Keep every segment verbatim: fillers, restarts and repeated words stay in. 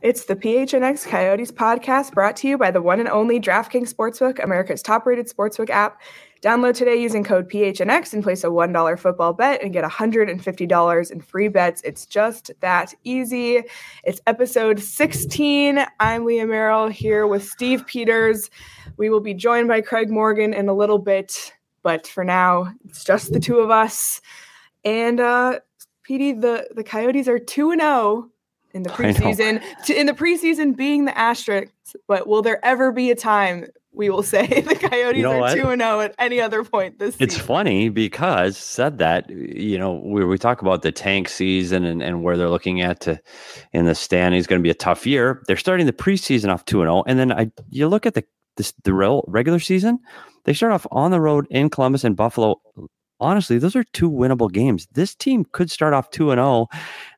It's the P H N X Coyotes podcast brought to you by the one and only DraftKings Sportsbook, America's top-rated sportsbook app. Download today using code P H N X and place a one dollar football bet and get one hundred fifty dollars in free bets. It's just that easy. It's episode sixteen. I'm Leah Merrill here with Steve Peters. We will be joined by Craig Morgan in a little bit, but for now, it's just the two of us. And uh, Petey, the, the Coyotes are two and oh in the preseason. In the preseason being the asterisks, but will there ever be a time we will say the Coyotes you know are two and oh at any other point this season? It's funny because said that, you know, we, we talk about the tank season and, and where they're looking at to in the standings going to be a tough year. They're starting the preseason off two and oh. And then I you look at the this, the real regular season, they start off on the road in Columbus and Buffalo. Honestly, those are two winnable games. This team could start off two and oh.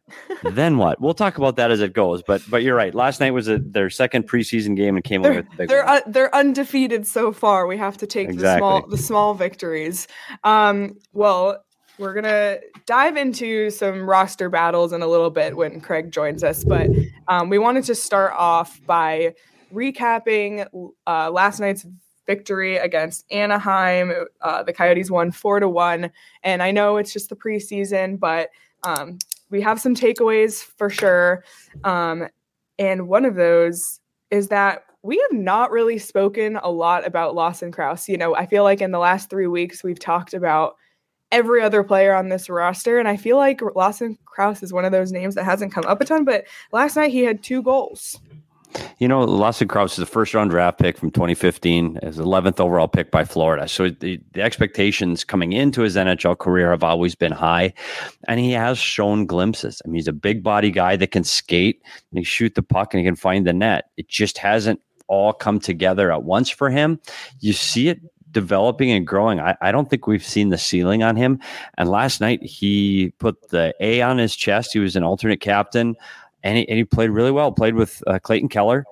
Then what? We'll talk about that as it goes. But but you're right. Last night was a, their second preseason game and came they're, away with the big they're one. Uh, they're undefeated so far. We have to take exactly. the small the small victories. Um, well, we're gonna dive into some roster battles in a little bit when Craig joins us. But um, we wanted to start off by recapping uh, last night's victory against Anaheim. Uh, the Coyotes won four to one, and I know it's just the preseason, but um, we have some takeaways for sure. Um, and one of those is that we have not really spoken a lot about Lawson Crouse. You know, I feel like in the last three weeks, we've talked about every other player on this roster. And I feel like Lawson Crouse is one of those names that hasn't come up a ton, but last night he had two goals. You know, Lawson Crouse is a first-round draft pick from twenty fifteen, as eleventh overall pick by Florida. So the, the expectations coming into his N H L career have always been high, and he has shown glimpses. I mean, he's a big-body guy that can skate, and he shoot the puck, and he can find the net. It just hasn't all come together at once for him. You see it developing and growing. I, I don't think we've seen the ceiling on him. And last night, he put the A on his chest. He was an alternate captain. And he, and he played really well, played with uh, Clayton Keller.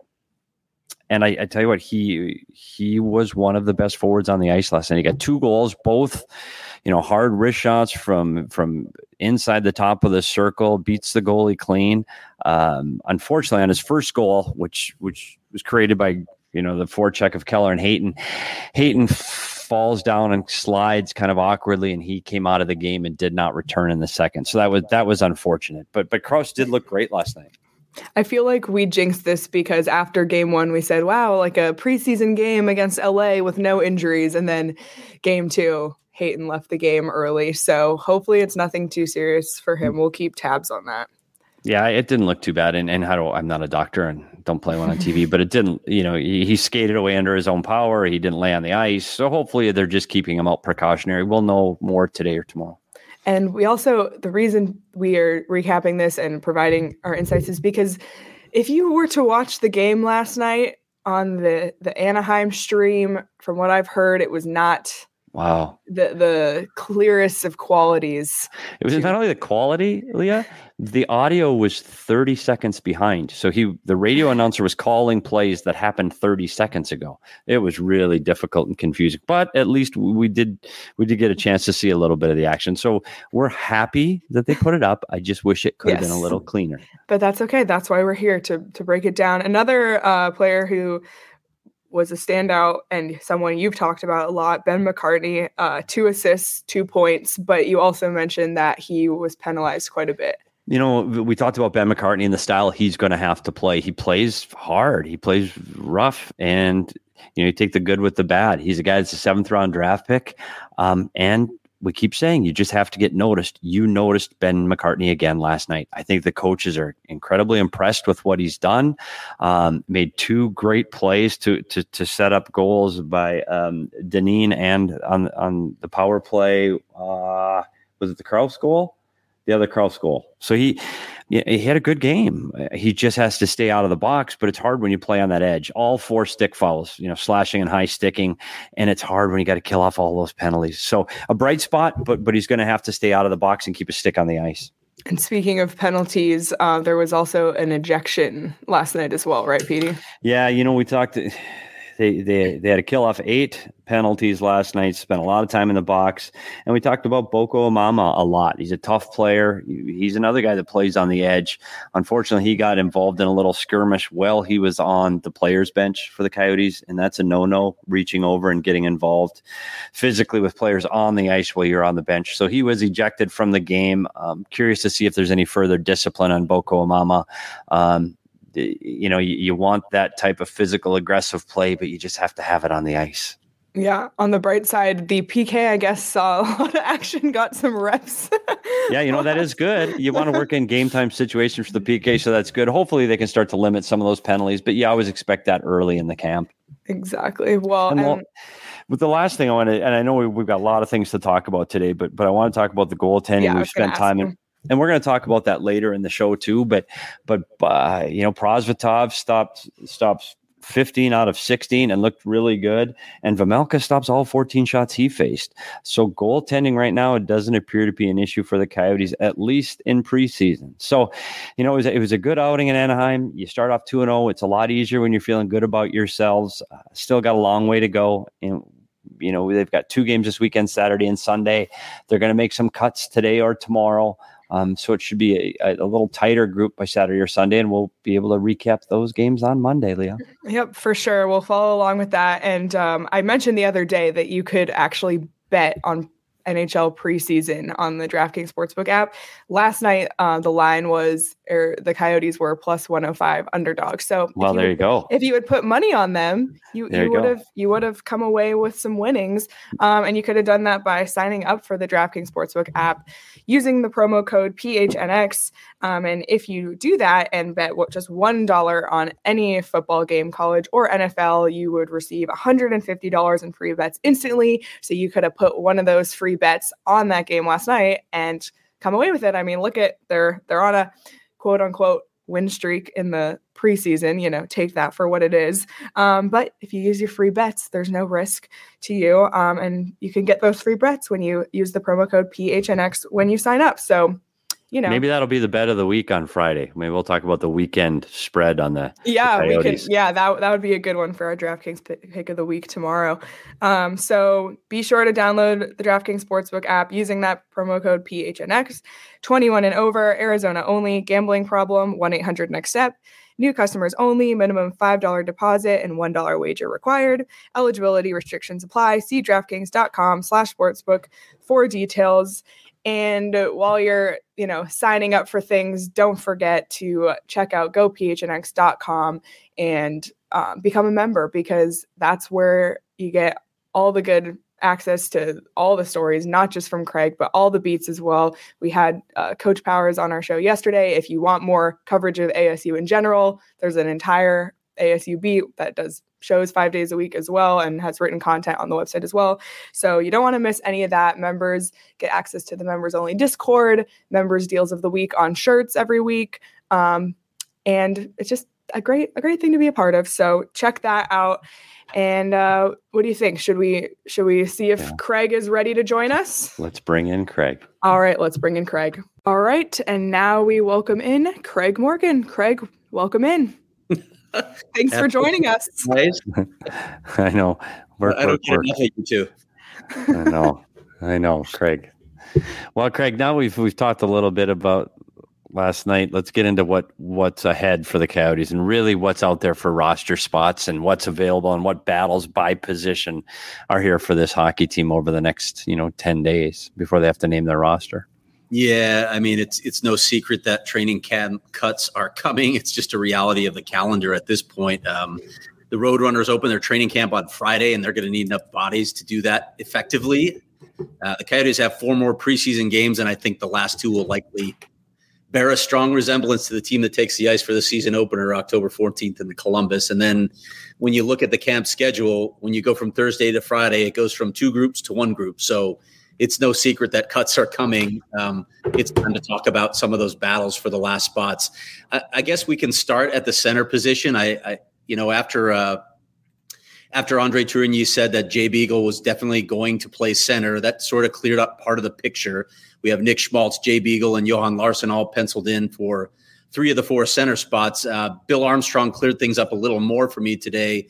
And I, I tell you what, he he was one of the best forwards on the ice last night. He got two goals, both, you know, hard wrist shots from from inside the top of the circle, beats the goalie clean. Um, unfortunately, on his first goal, which which was created by, you know, the forecheck of Keller and Hayton, Hayton falls down and slides kind of awkwardly, and he came out of the game and did not return in the second. So that was that was unfortunate. But but Crouse did look great last night. I feel like we jinxed this because after game one, we said, wow, like a preseason game against L A with no injuries. And then game two, Hayton left the game early. So hopefully it's nothing too serious for him. We'll keep tabs on that. Yeah, it didn't look too bad. And and how do I'm not a doctor and don't play one on T V, but it didn't, you know, he, he skated away under his own power. He didn't lay on the ice. So hopefully they're just keeping him out precautionary. We'll know more today or tomorrow. And we also, the reason we are recapping this and providing our insights is because if you were to watch the game last night on the, the Anaheim stream, from what I've heard, it was not wow the the clearest of qualities. It was to- not only the quality, Leah, the audio was thirty seconds behind. So he the radio announcer was calling plays that happened thirty seconds ago. It was really difficult and confusing, but at least we did we did get a chance to see a little bit of the action. So we're happy that they put it up. I just wish it could yes. have been a little cleaner. But that's okay. That's why we're here to to break it down. Another uh, player who was a standout and someone you've talked about a lot, Ben McCartney, uh, two assists, two points, but you also mentioned that he was penalized quite a bit. You know, we talked about Ben McCartney and the style he's going to have to play. He plays hard. He plays rough, and, you know, you take the good with the bad. He's a guy that's a seventh round draft pick. Um, and we keep saying you just have to get noticed. You noticed Ben McCartney again last night. I think the coaches are incredibly impressed with what he's done. Um, made two great plays to to to set up goals by um, Deneen and on on the power play. Uh, was it the Crouse goal? The other Crouse goal. So he, he had a good game. He just has to stay out of the box, but it's hard when you play on that edge. All four stick fouls, you know, slashing and high sticking, and it's hard when you got to kill off all those penalties. So a bright spot, but but he's going to have to stay out of the box and keep a stick on the ice. And speaking of penalties, uh, there was also an ejection last night as well, right, Petey? Yeah, you know, we talked. they, they they had to kill off eight penalties last night, spent a lot of time in the box. And we talked about Boko Amama a lot. He's a tough player. He's another guy that plays on the edge. Unfortunately, he got involved in a little skirmish while he was on the players' bench for the Coyotes, and that's a no-no, reaching over and getting involved physically with players on the ice while you're on the bench. So he was ejected from the game. Um, curious to see if there's any further discipline on Boko Amama. Um, you know, you, you want that type of physical, aggressive play, but you just have to have it on the ice. Yeah. On the bright side, the P K, I guess, saw a lot of action, got some reps. Yeah, you know, that is good. You want to work in game time situations for the P K, so that's good. Hopefully they can start to limit some of those penalties, but you always expect that early in the camp. Exactly. Well, and well and- with the last thing I want to, and I know we, we've got a lot of things to talk about today, but but I want to talk about the goaltending. Yeah, We've spent time in. And we're going to talk about that later in the show too. But, but uh, you know, Prosvetov stopped stops fifteen out of sixteen and looked really good. And Vejmelka stops all fourteen shots he faced. So goaltending right now, it doesn't appear to be an issue for the Coyotes, at least in preseason. So, you know, it was, it was a good outing in Anaheim. You start off two and oh. It's a lot easier when you're feeling good about yourselves. Uh, still got a long way to go. And, you know, they've got two games this weekend, Saturday and Sunday. They're going to make some cuts today or tomorrow. Um, so it should be a, a little tighter group by Saturday or Sunday, and we'll be able to recap those games on Monday, Leah. Yep, for sure. We'll follow along with that. And um, I mentioned the other day that you could actually bet on N H L preseason on the DraftKings Sportsbook app. Last night, uh, the line was, or the Coyotes were plus one oh five underdogs. So well, there you would, go. If you would put money on them, you, you would have you would have come away with some winnings. Um, and you could have done that by signing up for the DraftKings Sportsbook app using the promo code P H N X. Um, and if you do that and bet what, just one dollar on any football game, college or N F L, you would receive one hundred fifty dollars in free bets instantly. So you could have put one of those free bets on that game last night and come away with it. I mean, look at they're they're on a quote unquote win streak in the preseason, you know, take that for what it is. Um, but if you use your free bets, there's no risk to you. Um, and you can get those free bets when you use the promo code P H N X when you sign up. So, you know, maybe that'll be the bet of the week on Friday. Maybe we'll talk about the weekend spread on the yeah, the we could. Yeah, that that would be a good one for our DraftKings pick, pick of the week tomorrow. Um, so be sure to download the DraftKings Sportsbook app using that promo code P H N X. twenty-one and over, Arizona only. Gambling problem? one eight hundred next step. New customers only. Minimum five dollars deposit and one dollar wager required. Eligibility restrictions apply. See DraftKings.com slash sportsbook for details. And while you're, you know, signing up for things, don't forget to check out go P H N X dot com and um, become a member, because that's where you get all the good access to all the stories, not just from Craig, but all the beats as well. We had uh, Coach Powers on our show yesterday. If you want more coverage of A S U in general, there's an entire A S U beat that does shows five days a week as well and has written content on the website as well. So you don't want to miss any of that. Members get access to the members only Discord, members deals of the week on shirts every week. Um, and it's just a great, a great thing to be a part of. So check that out. And uh, what do you think? Should we, should we see if yeah. Craig is ready to join us? Let's bring in Craig. All right, let's bring in Craig. All right. And now we welcome in Craig Morgan. Craig, welcome in. Thanks for joining us. I know. Work, I don't work, get work. enough of you too. I know. I know, Craig. Well, Craig, now we've we've talked a little bit about last night. Let's get into what what's ahead for the Coyotes and really what's out there for roster spots and what's available and what battles by position are here for this hockey team over the next, you know, ten days before they have to name their roster. Yeah, I mean, it's it's no secret that training camp cuts are coming. It's just a reality of the calendar at this point. Um, the Roadrunners open their training camp on Friday, and they're going to need enough bodies to do that effectively. Uh, the Coyotes have four more preseason games, and I think the last two will likely bear a strong resemblance to the team that takes the ice for the season opener October fourteenth in the Columbus. And then when you look at the camp schedule, when you go from Thursday to Friday, it goes from two groups to one group. So it's no secret that cuts are coming. Um, it's time to talk about some of those battles for the last spots. I, I guess we can start at the center position. I, I you know, after uh, after Andre Tourigny said that Jay Beagle was definitely going to play center, that sort of cleared up part of the picture. We have Nick Schmaltz, Jay Beagle, and Johan Larsson all penciled in for three of the four center spots. Uh, Bill Armstrong cleared things up a little more for me today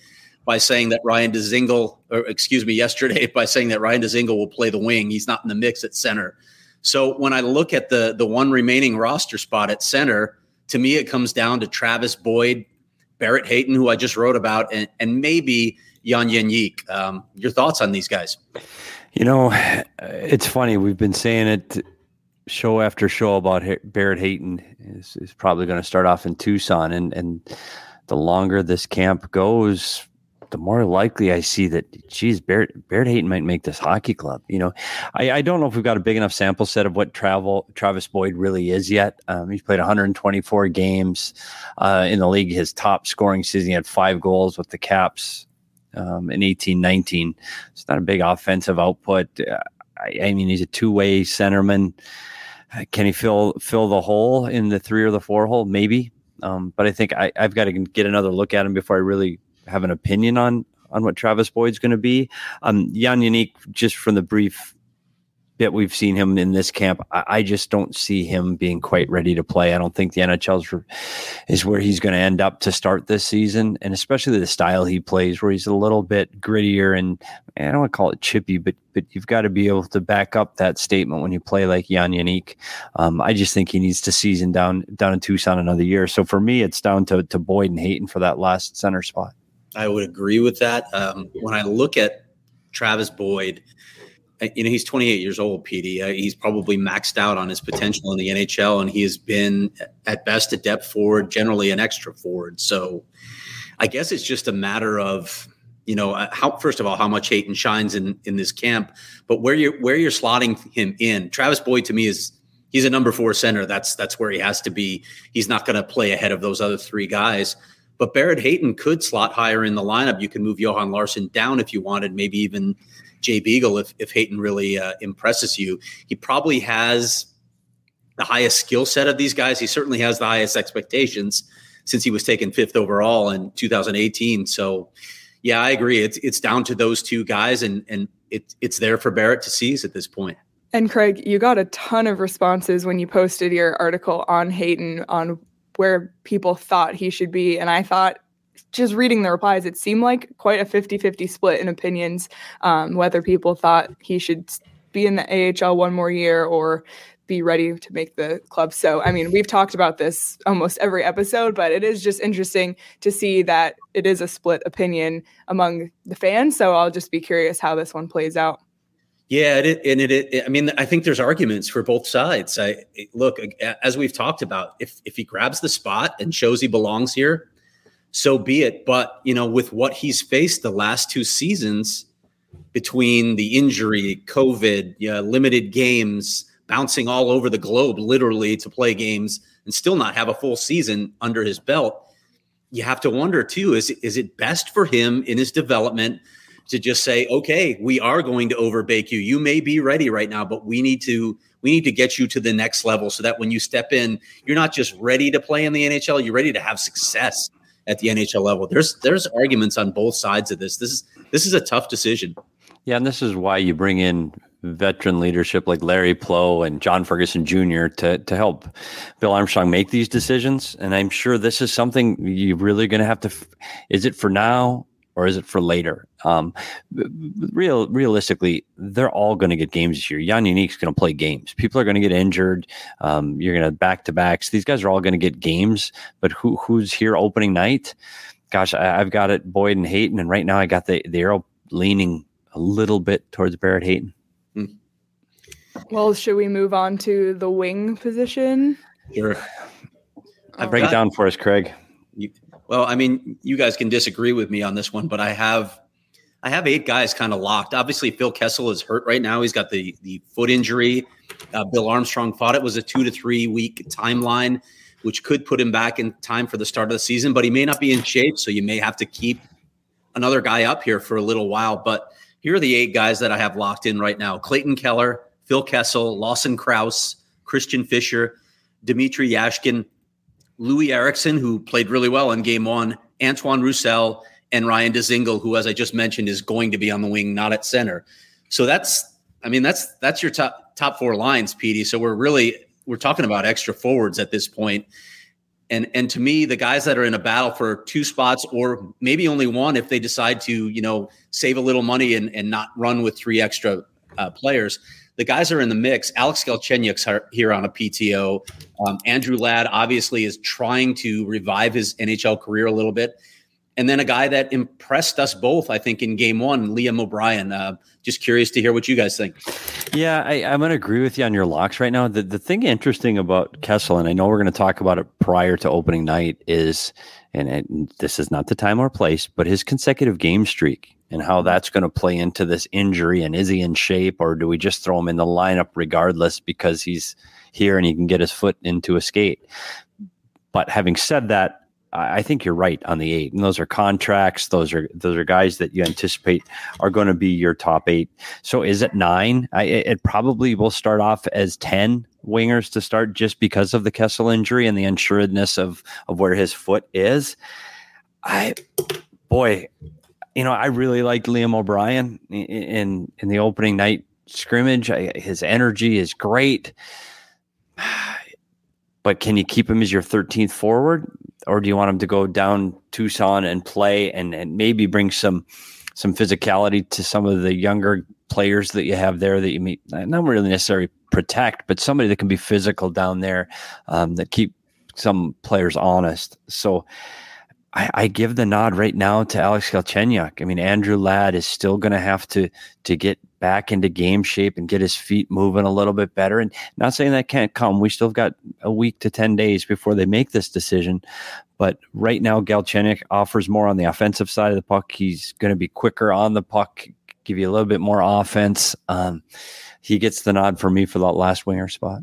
by saying that Ryan Dzingel, or excuse me, yesterday by saying that Ryan Dzingel will play the wing. He's not in the mix at center. So when I look at the the one remaining roster spot at center, to me, it comes down to Travis Boyd, Barrett Hayton, who I just wrote about, and, and maybe Jan Jeník. Um, your thoughts on these guys? You know, it's funny. We've been saying it show after show about Barrett Hayton is, is probably going to start off in Tucson. And, and the longer this camp goes, the more likely I see that, geez, Barrett, Barrett Hayton might make this hockey club. You know, I, I don't know if we've got a big enough sample set of what travel Travis Boyd really is yet. Um, he's played one hundred twenty-four games uh, in the league. His top scoring season, he had five goals with the Caps um, in eighteen nineteen. It's not a big offensive output. Uh, I, I mean, he's a two-way centerman. Uh, can he fill fill the hole in the three or the four hole? Maybe. Um, but I think I, I've got to get another look at him before I really have an opinion on on what Travis Boyd's going to be. Um, Jan Jeník, just from the brief bit we've seen him in this camp, I, I just don't see him being quite ready to play. I don't think the N H L is where he's going to end up to start this season, and especially the style he plays, where he's a little bit grittier and I don't want to call it chippy, but but you've got to be able to back up that statement when you play like Jan Jeník. Um, I just think he needs to season down down in Tucson another year. So for me, it's down to to Boyd and Hayton for that last center spot. I would agree with that. Um, when I look at Travis Boyd, you know, he's twenty-eight years old, P D. Uh, he's probably maxed out on his potential in the N H L, and he has been at best a depth forward, generally an extra forward. So I guess it's just a matter of, you know, how, first of all, how much Hayton shines in, in this camp, but where you're, where you're slotting him in. Travis Boyd, to me, is he's a number four center. That's, that's where he has to be. He's not going to play ahead of those other three guys. But Barrett Hayton could slot higher in the lineup. You can move Johan Larsson down if you wanted, maybe even Jay Beagle if, if Hayton really uh, impresses you. He probably has the highest skill set of these guys. He certainly has the highest expectations since he was taken fifth overall in two thousand eighteen. So, yeah, I agree. It's it's down to those two guys, and, and it, it's there for Barrett to seize at this point. And Craig, you got a ton of responses when you posted your article on Hayton on where people thought he should be. And I thought, just reading the replies, it seemed like quite a fifty-fifty split in opinions, um, whether people thought he should be in the A H L one more year or be ready to make the club. So, I mean, we've talked about this almost every episode, but it is just interesting to see that it is a split opinion among the fans. So I'll just be curious how this one plays out. Yeah, it, and it, it. I mean, I think there's arguments for both sides. I look, as we've talked about, if if he grabs the spot and shows he belongs here, so be it. But you know, with what he's faced the last two seasons, between the injury, COVID, yeah, limited games, bouncing all over the globe, literally to play games, and still not have a full season under his belt, you have to wonder too: is is it best for him in his development to just say, okay, we are going to overbake you. You may be ready right now, but we need to we need to get you to the next level so that when you step in, you're not just ready to play in the N H L, you're ready to have success at the N H L level. There's there's arguments on both sides of this. This is this is a tough decision. Yeah, and this is why you bring in veteran leadership like Larry Plow and John Ferguson Junior to to help Bill Armstrong make these decisions. And I'm sure this is something you're really going to have to. Is it for now? Or is it for later? Um, real, realistically, they're all going to get games this year. Jan Jeník's going to play games. People are going to get injured. Um, you're going to back-to-backs. These guys are all going to get games. But who who's here opening night? Gosh, I, I've got it, Boyd and Hayton. And right now I got the, the arrow leaning a little bit towards Barrett Hayton. Hmm. Well, should we move on to the wing position? Sure. I break got- it down for us, Craig. You- Well, I mean, you guys can disagree with me on this one, but I have I have eight guys kind of locked. Obviously, Phil Kessel is hurt right now. He's got the, the foot injury. Uh, Bill Armstrong thought it was a two to three week timeline, which could put him back in time for the start of the season, but he may not be in shape, so you may have to keep another guy up here for a little while. But here are the eight guys that I have locked in right now. Clayton Keller, Phil Kessel, Lawson Krause, Christian Fischer, Dmitry Yashkin, Louis Eriksson, who played really well in game one, Antoine Roussel, and Ryan Dzingel, who, as I just mentioned, is going to be on the wing, not at center. So that's, I mean, that's that's your top top four lines, Petey. So we're really we're talking about extra forwards at this point. And and to me, the guys that are in a battle for two spots or maybe only one, if they decide to, you know, save a little money and, and not run with three extra uh, players, the guys are in the mix. Alex Galchenyuk's here on a P T O. Um, Andrew Ladd obviously is trying to revive his N H L career a little bit. And then a guy that impressed us both, I think, in game one, Liam O'Brien. Uh, just curious to hear what you guys think. Yeah, I, I'm going to agree with you on your locks right now. The the thing interesting about Kessel, and I know we're going to talk about it prior to opening night, is, and it, this is not the time or place, but his consecutive game streak and how that's going to play into this injury. And is he in shape, or do we just throw him in the lineup regardless because he's here and he can get his foot into a skate? But having said that, I think you're right on the eight, and those are contracts. Those are those are guys that you anticipate are going to be your top eight. So is it nine? I, it probably will start off as ten wingers to start, just because of the Kessel injury and the unsuredness of of where his foot is. I, boy, you know, I really liked Liam O'Brien in in, in the opening night scrimmage. I, his energy is great. But can you keep him as your thirteenth forward, or do you want him to go down Tucson and play and, and maybe bring some some physicality to some of the younger players that you have there that you meet, not really necessarily protect, but somebody that can be physical down there, um, that keep some players honest. So I, I give the nod right now to Alex Galchenyuk. I mean, Andrew Ladd is still going to have to to get back into game shape and get his feet moving a little bit better. And not saying that can't come. We still have got a week to ten days before they make this decision. But right now, Galchenyuk offers more on the offensive side of the puck. He's going to be quicker on the puck, give you a little bit more offense. Um, he gets the nod for me for that last winger spot.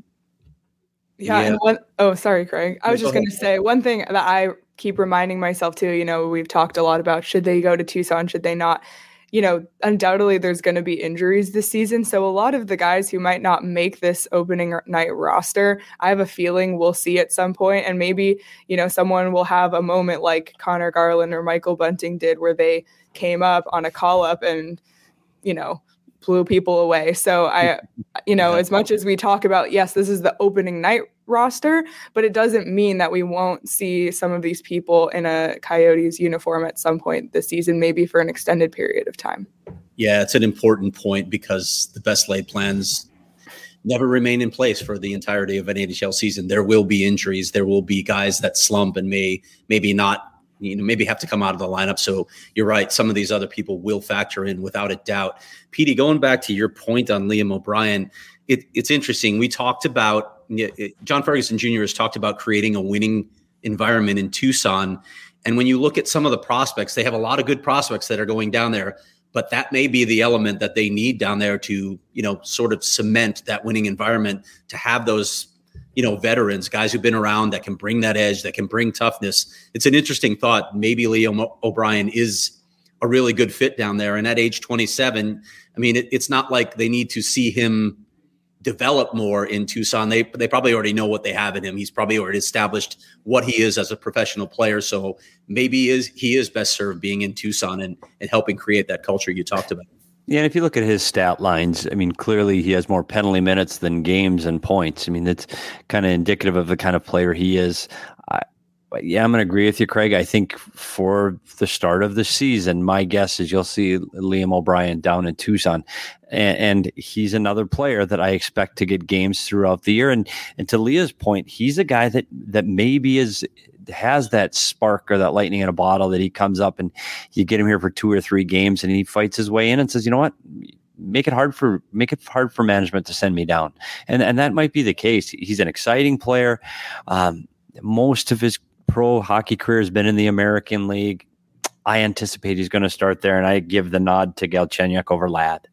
Yeah. Yeah. And one, oh, sorry, Craig. I was No, just go going to say one thing that I keep reminding myself too, you know, we've talked a lot about, should they go to Tucson? Should they not? You know, undoubtedly there's going to be injuries this season. So a lot of the guys who might not make this opening night roster, I have a feeling we'll see at some point. And maybe, you know, someone will have a moment like Connor Garland or Michael Bunting did, where they came up on a call up and, you know, blew people away. So I, you know, as much as we talk about, yes, this is the opening night roster, but it doesn't mean that we won't see some of these people in a Coyotes uniform at some point this season, maybe for an extended period of time. Yeah, it's an important point because the best laid plans never remain in place for the entirety of an N H L season. There will be injuries. There will be guys that slump and may maybe not, you know, maybe have to come out of the lineup. So you're right. Some of these other people will factor in without a doubt. Petey, going back to your point on Liam O'Brien, it, it's interesting. We talked about, John Ferguson Junior has talked about creating a winning environment in Tucson. And when you look at some of the prospects, they have a lot of good prospects that are going down there, but that may be the element that they need down there to, you know, sort of cement that winning environment, to have those, you know, veterans, guys who've been around that can bring that edge, that can bring toughness. It's an interesting thought. Maybe Liam O'Brien is a really good fit down there. And at age twenty-seven, I mean, it, it's not like they need to see him develop more in Tucson. They they probably already know what they have in him. He's probably already established what he is as a professional player. So maybe he is he is best served being in Tucson and, and helping create that culture you talked about. Yeah, and if you look at his stat lines, I mean, clearly he has more penalty minutes than games and points. I mean, that's kind of indicative of the kind of player he is. I, yeah, I'm going to agree with you, Craig. I think for the start of the season, my guess is you'll see Liam O'Brien down in Tucson. And, and he's another player that I expect to get games throughout the year. And and to Leah's point, he's a guy that that maybe is has that spark or that lightning in a bottle, that he comes up and you get him here for two or three games and he fights his way in and says, you know what, make it hard for make it hard for management to send me down. And and that might be the case. He's an exciting player. Um, most of his pro hockey career has been in the American League. I anticipate he's going to start there, and I give the nod to Galchenyuk over Ladd.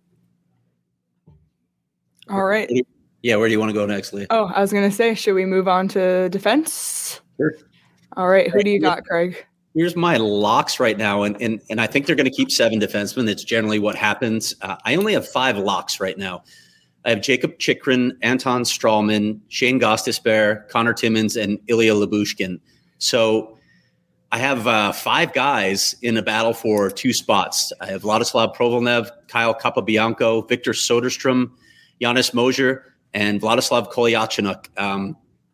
All right. Yeah, where do you want to go next, Leah? Oh, I was going to say, should we move on to defense? Sure. All right. Who do you got, Craig? Here's my locks right now, and and, and I think they're going to keep seven defensemen. That's generally what happens. Uh, I only have five locks right now. I have Jacob Chychrun, Anton Strawman, Shane Gostisbehere, Connor Timmins, and Ilya Lyubushkin. So I have uh, five guys in a battle for two spots. I have Vladislav Provolnev, Kyle Capobianco, Victor Soderstrom, Janis Moser, and Vladislav Kolyachonok. Um,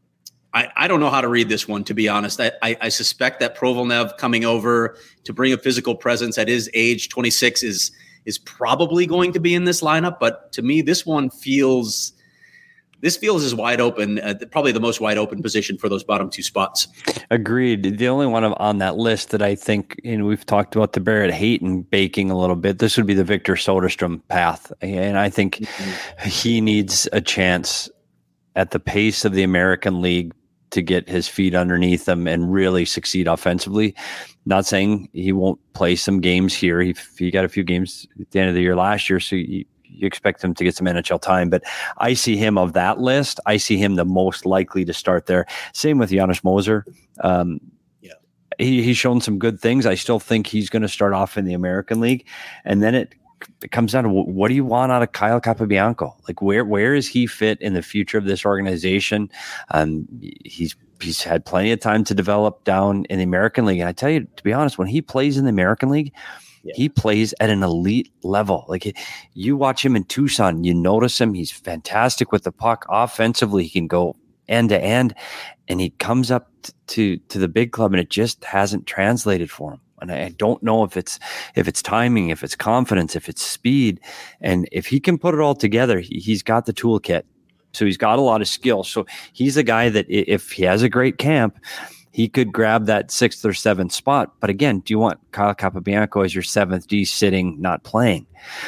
I, I don't know how to read this one, to be honest. I, I, I suspect that Provolnev coming over to bring a physical presence at his age, twenty-six, is is probably going to be in this lineup. But to me, this one feels this feels as wide open, uh, probably the most wide open position for those bottom two spots. Agreed. The only one on that list that I think, and we've talked about the Barrett Hayton baking a little bit, this would be the Victor Soderstrom path. And I think mm-hmm. he needs a chance at the pace of the American League to get his feet underneath him and really succeed offensively. Not saying he won't play some games here. He, he got a few games at the end of the year last year, so you, you expect him to get some N H L time. But I see him of that list. I see him the most likely to start there. Same with Janis Moser. Um, yeah, he, he's shown some good things. I still think he's going to start off in the American League. And then it It comes down to what do you want out of Kyle Capobianco? Like where where is he fit in the future of this organization? Um, he's he's had plenty of time to develop down in the American League. And I tell you, to be honest, when he plays in the American League, yeah. he plays at an elite level. Like you watch him in Tucson, you notice him. He's fantastic with the puck. Offensively, he can go end to end, and he comes up t- to to the big club, and it just hasn't translated for him. And I don't know if it's if it's timing, if it's confidence, if it's speed. And if he can put it all together, he, he's got the toolkit. So he's got a lot of skill. So he's a guy that if he has a great camp, he could grab that sixth or seventh spot. But again, do you want Kyle Capobianco as your seventh D sitting, not playing?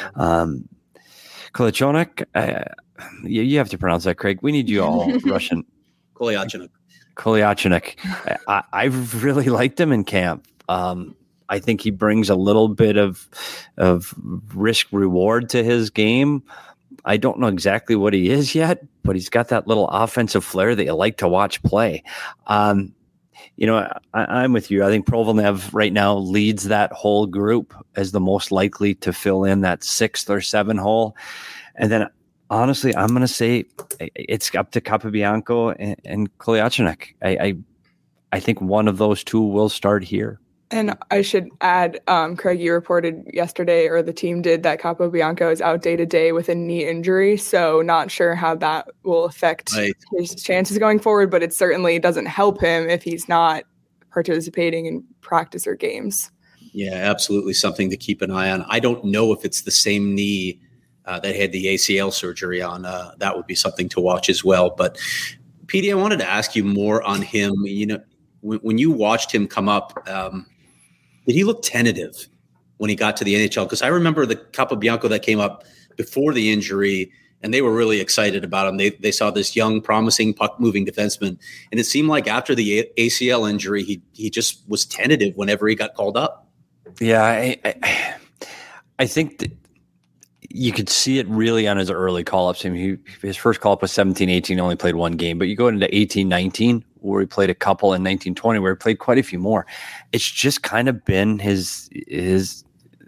Um, Kolyachonok, uh, you, you have to pronounce that, Craig. We need you all Russian. Kolyachonok. Kolyachonok. I, I've really liked him in camp. Um, I think he brings a little bit of of risk reward to his game. I don't know exactly what he is yet, but he's got that little offensive flair that you like to watch play. Um, you know, I, I'm with you. I think Provolnev right now leads that whole group as the most likely to fill in that sixth or seven hole. And then, honestly, I'm going to say it's up to Capobianco and, and Kolyachonok. I, I I think one of those two will start here. And I should add, um, Craig, you reported yesterday, or the team did, that Capobianco is out day to day with a knee injury. So not sure how that will affect right. his chances going forward, but it certainly doesn't help him if he's not participating in practice or games. Yeah, absolutely something to keep an eye on. I don't know if it's the same knee uh, that had the A C L surgery on. Uh, that would be something to watch as well. But P D, I wanted to ask you more on him. You know, when, when you watched him come up, um, did he look tentative when he got to the N H L? Because I remember the Capobianco that came up before the injury, and they were really excited about him. They they saw this young, promising puck-moving defenseman, and it seemed like after the A C L injury, he he just was tentative whenever he got called up. Yeah, I I, I think that you could see it really on his early call-ups. I mean, he, his first call-up was seventeen eighteen, only played one game. But you go into eighteen nineteen, where he played a couple, in nineteen twenty, where he played quite a few more. It's just kind of been his his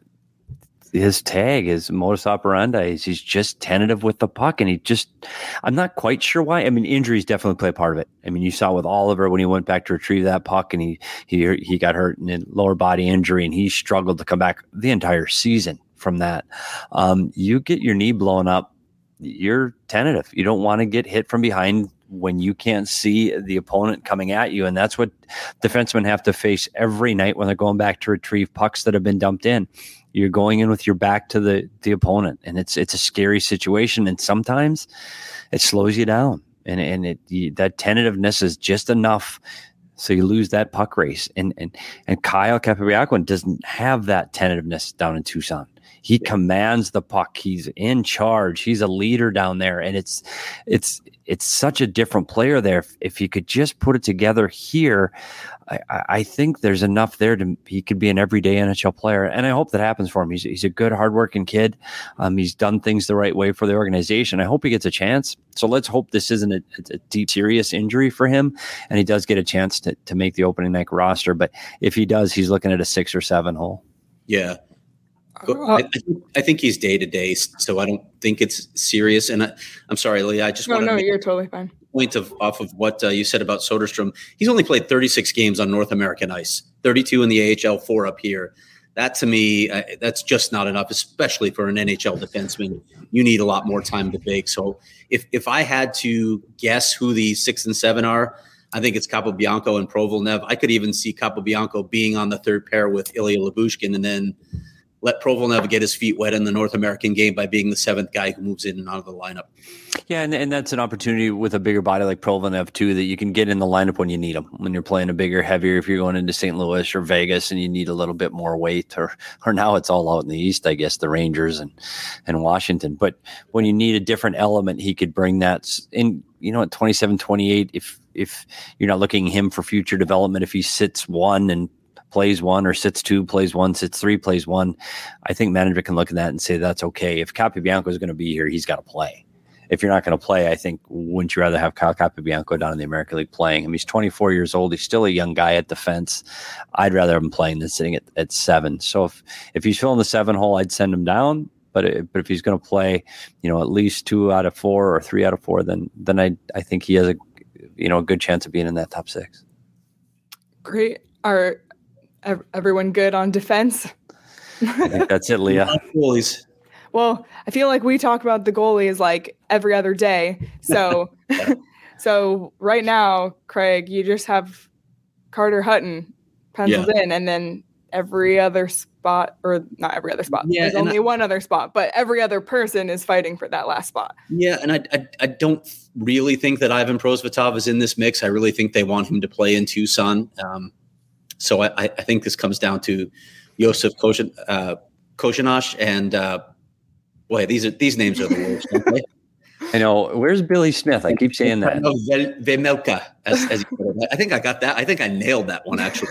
his tag, his modus operandi. He's just tentative with the puck, and he just – I'm not quite sure why. I mean, injuries definitely play a part of it. I mean, you saw with Oliver when he went back to retrieve that puck, and he he he got hurt in a lower body injury, and he struggled to come back the entire season from that. Um, you get your knee blown up, you're tentative. You don't want to get hit from behind when you can't see the opponent coming at you. And that's what defensemen have to face every night when they're going back to retrieve pucks that have been dumped in. You're going in with your back to the, the opponent, and it's it's a scary situation. And sometimes it slows you down, and and it you, that tentativeness is just enough so you lose that puck race. And and and Kyle Capobianco doesn't have that tentativeness down in Tucson. He commands the puck. He's in charge. He's a leader down there, and it's it's it's such a different player there. If, if he could just put it together here, I, I think there's enough there to he could be an everyday N H L player, and I hope that happens for him. He's he's a good, hardworking kid. Um, he's done things the right way for the organization. I hope he gets a chance. So let's hope this isn't a, a deep, serious injury for him, and he does get a chance to to make the opening night roster. But if he does, he's looking at a six or seven hole. Yeah. I, I think he's day to day, so I don't think it's serious. And I, I'm sorry, Leah. I just no, want to no, make you're totally fine. Point of off of what uh, you said about Soderstrom. He's only played thirty-six games on North American ice, thirty-two in the A H L, four up here. That to me, uh, that's just not enough, especially for an N H L defenseman. You need a lot more time to bake. So if if I had to guess who the six and seven are, I think it's Capobianco and Provolnev. I could even see Capobianco being on the third pair with Ilya Lyubushkin and then let Provolnev get his feet wet in the North American game by being the seventh guy who moves in and out of the lineup. Yeah, and, and that's an opportunity with a bigger body like Provolnev, too, that you can get in the lineup when you need them, when you're playing a bigger, heavier, if you're going into Saint Louis or Vegas and you need a little bit more weight, or or now it's all out in the East, I guess, the Rangers and, and Washington. But when you need a different element, he could bring that in, you know, at twenty-seven, twenty-eight, if, if you're not looking him for future development, if he sits one and plays one, or sits two, plays one, sits three, plays one, I think management can look at that and say that's okay. If Capobianco is going to be here, he's got to play. If you're not going to play, I think, wouldn't you rather have Kyle Capobianco down in the American League playing? I mean, he's twenty-four years old. He's still a young guy at defense. I'd rather have him playing than sitting at, at seven. So if, if he's filling the seven hole, I'd send him down. But it, but if he's going to play, you know, at least two out of four or three out of four, then then I I think he has a you know a good chance of being in that top six. Great. Are everyone good on defense? I think that's it, Leah. Goalies. Well, I feel like we talk about the goalies like every other day. So, so right now, Craig, you just have Carter Hutton penciled yeah. in, and then every other spot, or not every other spot. Yeah, There's only I, one other spot, but every other person is fighting for that last spot. Yeah, and I, I, I don't really think that Ivan Prosvetov is in this mix. I really think they want him to play in Tucson. Um, so I, I think this comes down to Josef Kozen, uh, Kozhinash and. Uh, Boy, these are these names are the worst. Okay? I know. Where's Billy Smith? I keep saying that. No, Vejmelka, as, as you put it. I think I got that. I think I nailed that one, actually.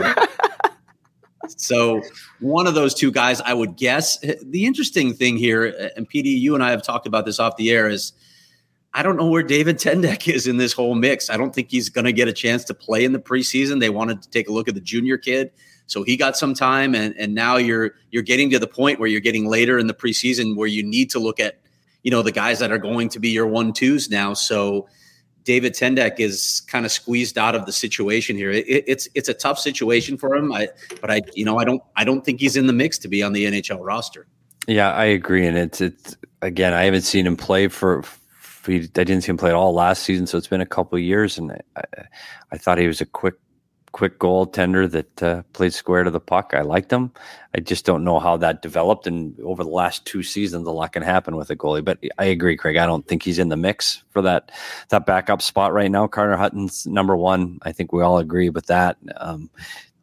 So one of those two guys, I would guess. The interesting thing here, and P D, you and I have talked about this off the air, is I don't know where David Tendek is in this whole mix. I don't think he's going to get a chance to play in the preseason. They wanted to take a look at the junior kid. So he got some time, and, and now you're you're getting to the point where you're getting later in the preseason where you need to look at, you know, the guys that are going to be your one twos now. So David Tendek is kind of squeezed out of the situation here. It, it's it's a tough situation for him. I but I you know I don't I don't think he's in the mix to be on the N H L roster. Yeah, I agree, and it's it's again I haven't seen him play for. for I didn't see him play at all last season, so it's been a couple of years, and I, I, I thought he was a quick. quick goaltender that uh, played square to the puck. I liked him. I just don't know how that developed. And over the last two seasons, a lot can happen with a goalie. But I agree, Craig. I don't think he's in the mix for that that backup spot right now. Carter Hutton's number one. I think we all agree with that. Um,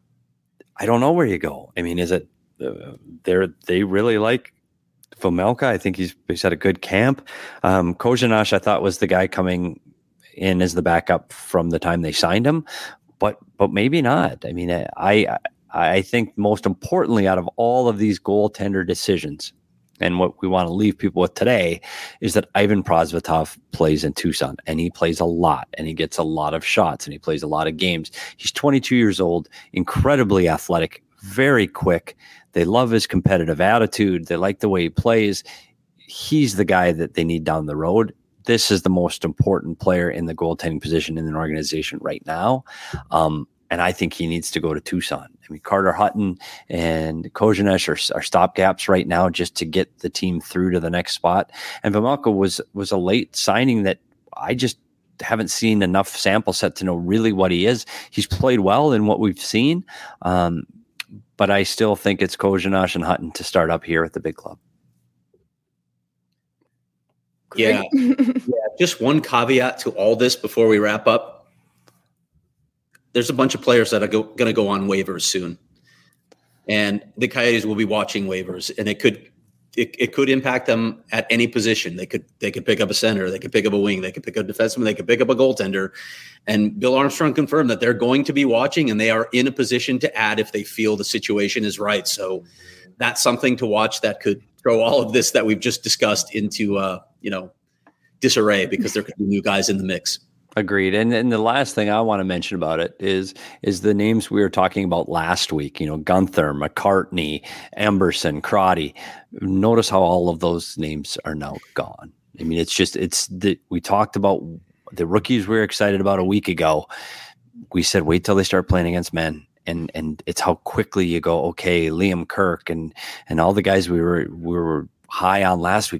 I don't know where you go. I mean, is it uh, they're they really like Vejmelka? I think he's he's had a good camp. Um, Kozhinash, I thought, was the guy coming in as the backup from the time they signed him. But but maybe not. I mean, I I think most importantly, out of all of these goaltender decisions, and what we want to leave people with today, is that Ivan Prosvetov plays in Tucson, and he plays a lot, and he gets a lot of shots, and he plays a lot of games. He's twenty-two years old, incredibly athletic, very quick. They love his competitive attitude. They like the way he plays. He's the guy that they need down the road. This is the most important player in the goaltending position in an organization right now. Um, and I think he needs to go to Tucson. I mean, Carter Hutton and Kozhinash are, are stopgaps right now just to get the team through to the next spot. And Vejmelka was, was a late signing that I just haven't seen enough sample set to know really what he is. He's played well in what we've seen. Um, but I still think it's Kozhinash and Hutton to start up here at the big club. Yeah. yeah. Just one caveat to all this before we wrap up. There's a bunch of players that are go, going to go on waivers soon. And the Coyotes will be watching waivers, and it could it, it could impact them at any position. They could they could pick up a center, they could pick up a wing, they could pick up a defenseman, they could pick up a goaltender. And Bill Armstrong confirmed that they're going to be watching, and they are in a position to add if they feel the situation is right. So that's something to watch that could throw all of this that we've just discussed into uh, you know, disarray, because there could be new guys in the mix. Agreed. And and the last thing I want to mention about it is is the names we were talking about last week, you know, Gunther, McCartney, Emberson, Crotty. Notice how all of those names are now gone. I mean, it's just, it's the, we talked about the rookies we were excited about a week ago. We said, wait till they start playing against men. And and it's how quickly you go, okay, Liam Kirk and and all the guys we were we were high on last week, just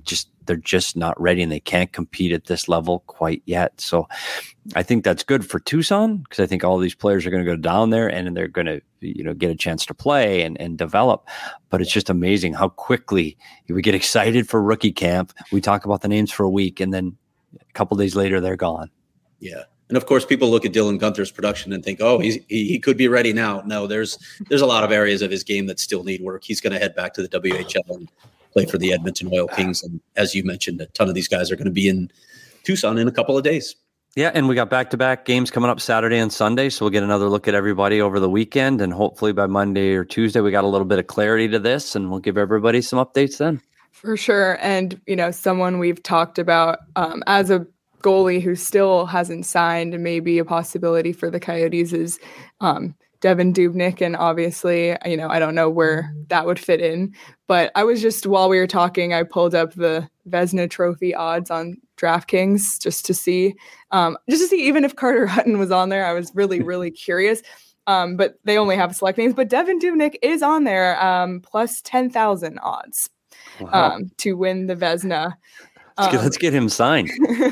they're just not ready and they can't compete at this level quite yet. So I think that's good for Tucson because I think all these players are going to go down there and they're going to, you know, get a chance to play and, and develop. But it's just amazing how quickly we get excited for rookie camp. We talk about the names for a week and then a couple days later they're gone. Yeah. And of course, people look at Dylan Gunther's production and think, oh, he's, he he could be ready now. No, there's there's a lot of areas of his game that still need work. He's going to head back to the W H L and play for the Edmonton Oil Kings. And as you mentioned, a ton of these guys are going to be in Tucson in a couple of days. Yeah, and we got back-to-back games coming up Saturday and Sunday, so we'll get another look at everybody over the weekend, and hopefully by Monday or Tuesday we got a little bit of clarity to this, and we'll give everybody some updates then. For sure, and, you know, someone we've talked about um, as a goalie who still hasn't signed and maybe a possibility for the Coyotes is um, Devan Dubnyk. And obviously, you know, I don't know where that would fit in, but I was just, while we were talking, I pulled up the Vezina Trophy odds on DraftKings just to see, um, just to see even if Carter Hutton was on there. I was really, really curious. Um, but they only have select names, but Devan Dubnyk is on there, um, plus ten thousand odds Wow. um, to win the Vezina. Let's get, Um, let's get him signed.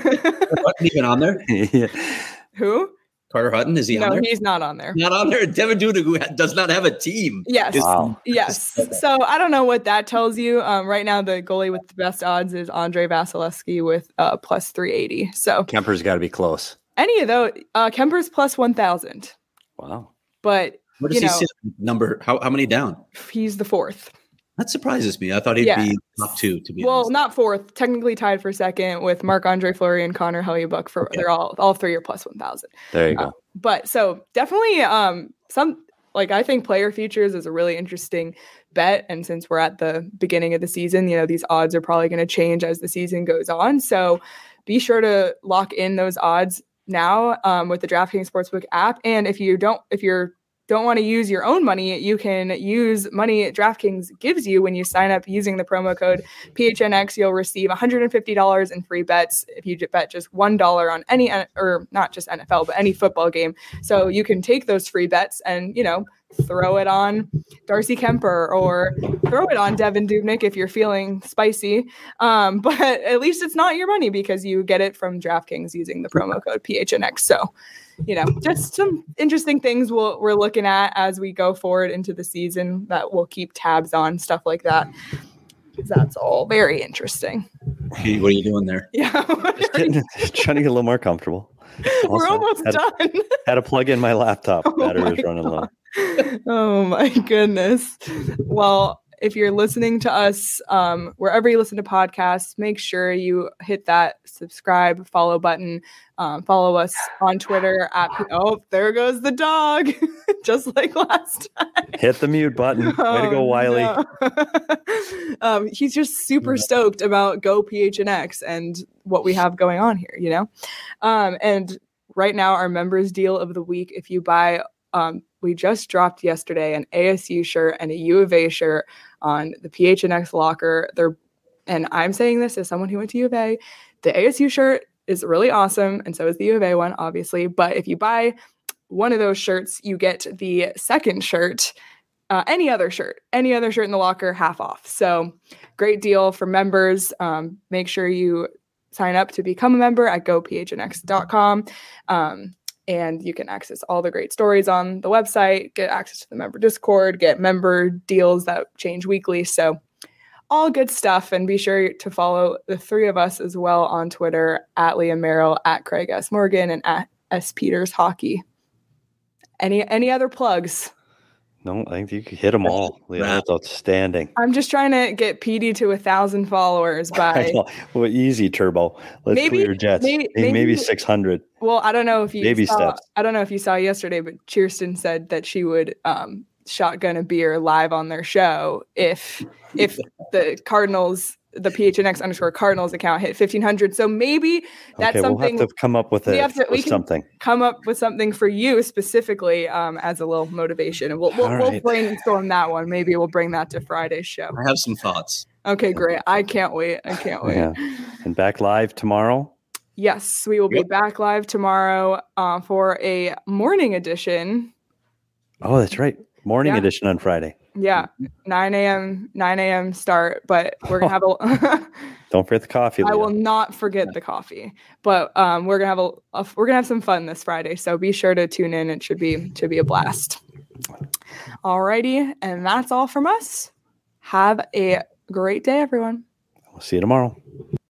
Hutton even on there? Yeah. Who? Carter Hutton, is he No, on there? he's not on there. Not on there. Devan Dubnyk, who ha- does not have a team. Yes. is- Wow. Yes. So I don't know what that tells you. Um, right now, the goalie with the best odds is Andre Vasilevsky with uh, plus three eighty. So Kemper's got to be close. any of those, uh, Kemper's plus one thousand. Wow. But Where does you he know, sit? Number? How, how many down? he's the fourth. That surprises me. I thought he'd Yeah. be top two, to be Well, honest. not fourth. Technically tied for second with Marc-Andre Fleury and Connor Hellebuyck. For Okay. they're all all three are plus one thousand. There you go. Uh, But so definitely um some like I think player futures is a really interesting bet. And since we're at the beginning of the season, you know, these odds are probably going to change as the season goes on. So be sure to lock in those odds now um, with the DraftKings Sportsbook app. And if you don't, if you're don't want to use your own money, you can use money DraftKings gives you when you sign up using the promo code P H N X. You'll receive one hundred fifty dollars in free bets if you bet just one dollar on any, or not just N F L, but any football game. So you can take those free bets and, you know, throw it on Darcy Kemper or throw it on Devan Dubnyk if you're feeling spicy. Um, but at least it's not your money because you get it from DraftKings using the promo code P H N X. So, you know, just some interesting things we'll, we're looking at as we go forward into the season that we'll keep tabs on, stuff like that. That's all very interesting. Hey, what are you doing there? Yeah. Just getting, just trying to get a little more comfortable. We're Also, almost had, done. Had to plug in my laptop. Oh Battery my was running low. Oh my goodness. Well, if you're listening to us um, wherever you listen to podcasts, make sure you hit that subscribe, follow button. Um, follow us on Twitter at oh, there goes the dog, just like last time. Hit the mute button. Way to go, Oh, Wiley. no. um, he's just super stoked about Go P H N X and what we have going on here, you know? Um, and right now, our members deal of the week, if you buy, um, we just dropped yesterday an A S U shirt and a U of A shirt on the P H N X locker. They're, and I'm saying this as someone who went to U of A, the A S U shirt is really awesome, and so is the U of A one, obviously. But if you buy one of those shirts, you get the second shirt, uh, any other shirt, any other shirt in the locker, half off. So great deal for members. Um, make sure you sign up to become a member at go p h n x dot com. Um, and you can access all the great stories on the website, get access to the member Discord, get member deals that change weekly. So all good stuff. And be sure to follow the three of us as well on Twitter at Liam Merrill, at Craig S. Morgan, and at S. Peters Hockey. Any any other plugs? No, I think you could hit them all. Yeah, that's outstanding. I'm just trying to get P D to a thousand followers I by know. Well, easy, Turbo. Let's Maybe- clear jets. maybe- Maybe, maybe- six hundred. well, I don't know if you Baby saw, steps. I don't know if you saw yesterday, but Cheerston said that she would um, shotgun a beer live on their show if if the Cardinals, the P H N X underscore Cardinals account hit fifteen hundred. So maybe that's Okay, we'll something have to come up with, we a, have to- we with can- something. come up with something for you specifically um, as a little motivation. And we'll we'll, All we'll right. brainstorm that one. Maybe we'll bring that to Friday's show. I have some thoughts. Okay, great. I can't wait. I can't wait. Yeah. And back live tomorrow. Yes, we will be Yep. back live tomorrow uh, for a morning edition. Oh, that's right. Morning Yeah. edition on Friday. Yeah, nine a.m. nine a.m. start, but we're gonna have a. Don't forget the coffee. I Leah. will not forget the coffee, but um, we're gonna have a, a we're gonna have some fun this Friday. So be sure to tune in. It should be should be a blast. Alrighty, and that's all from us. Have a great day, everyone. We'll see you tomorrow.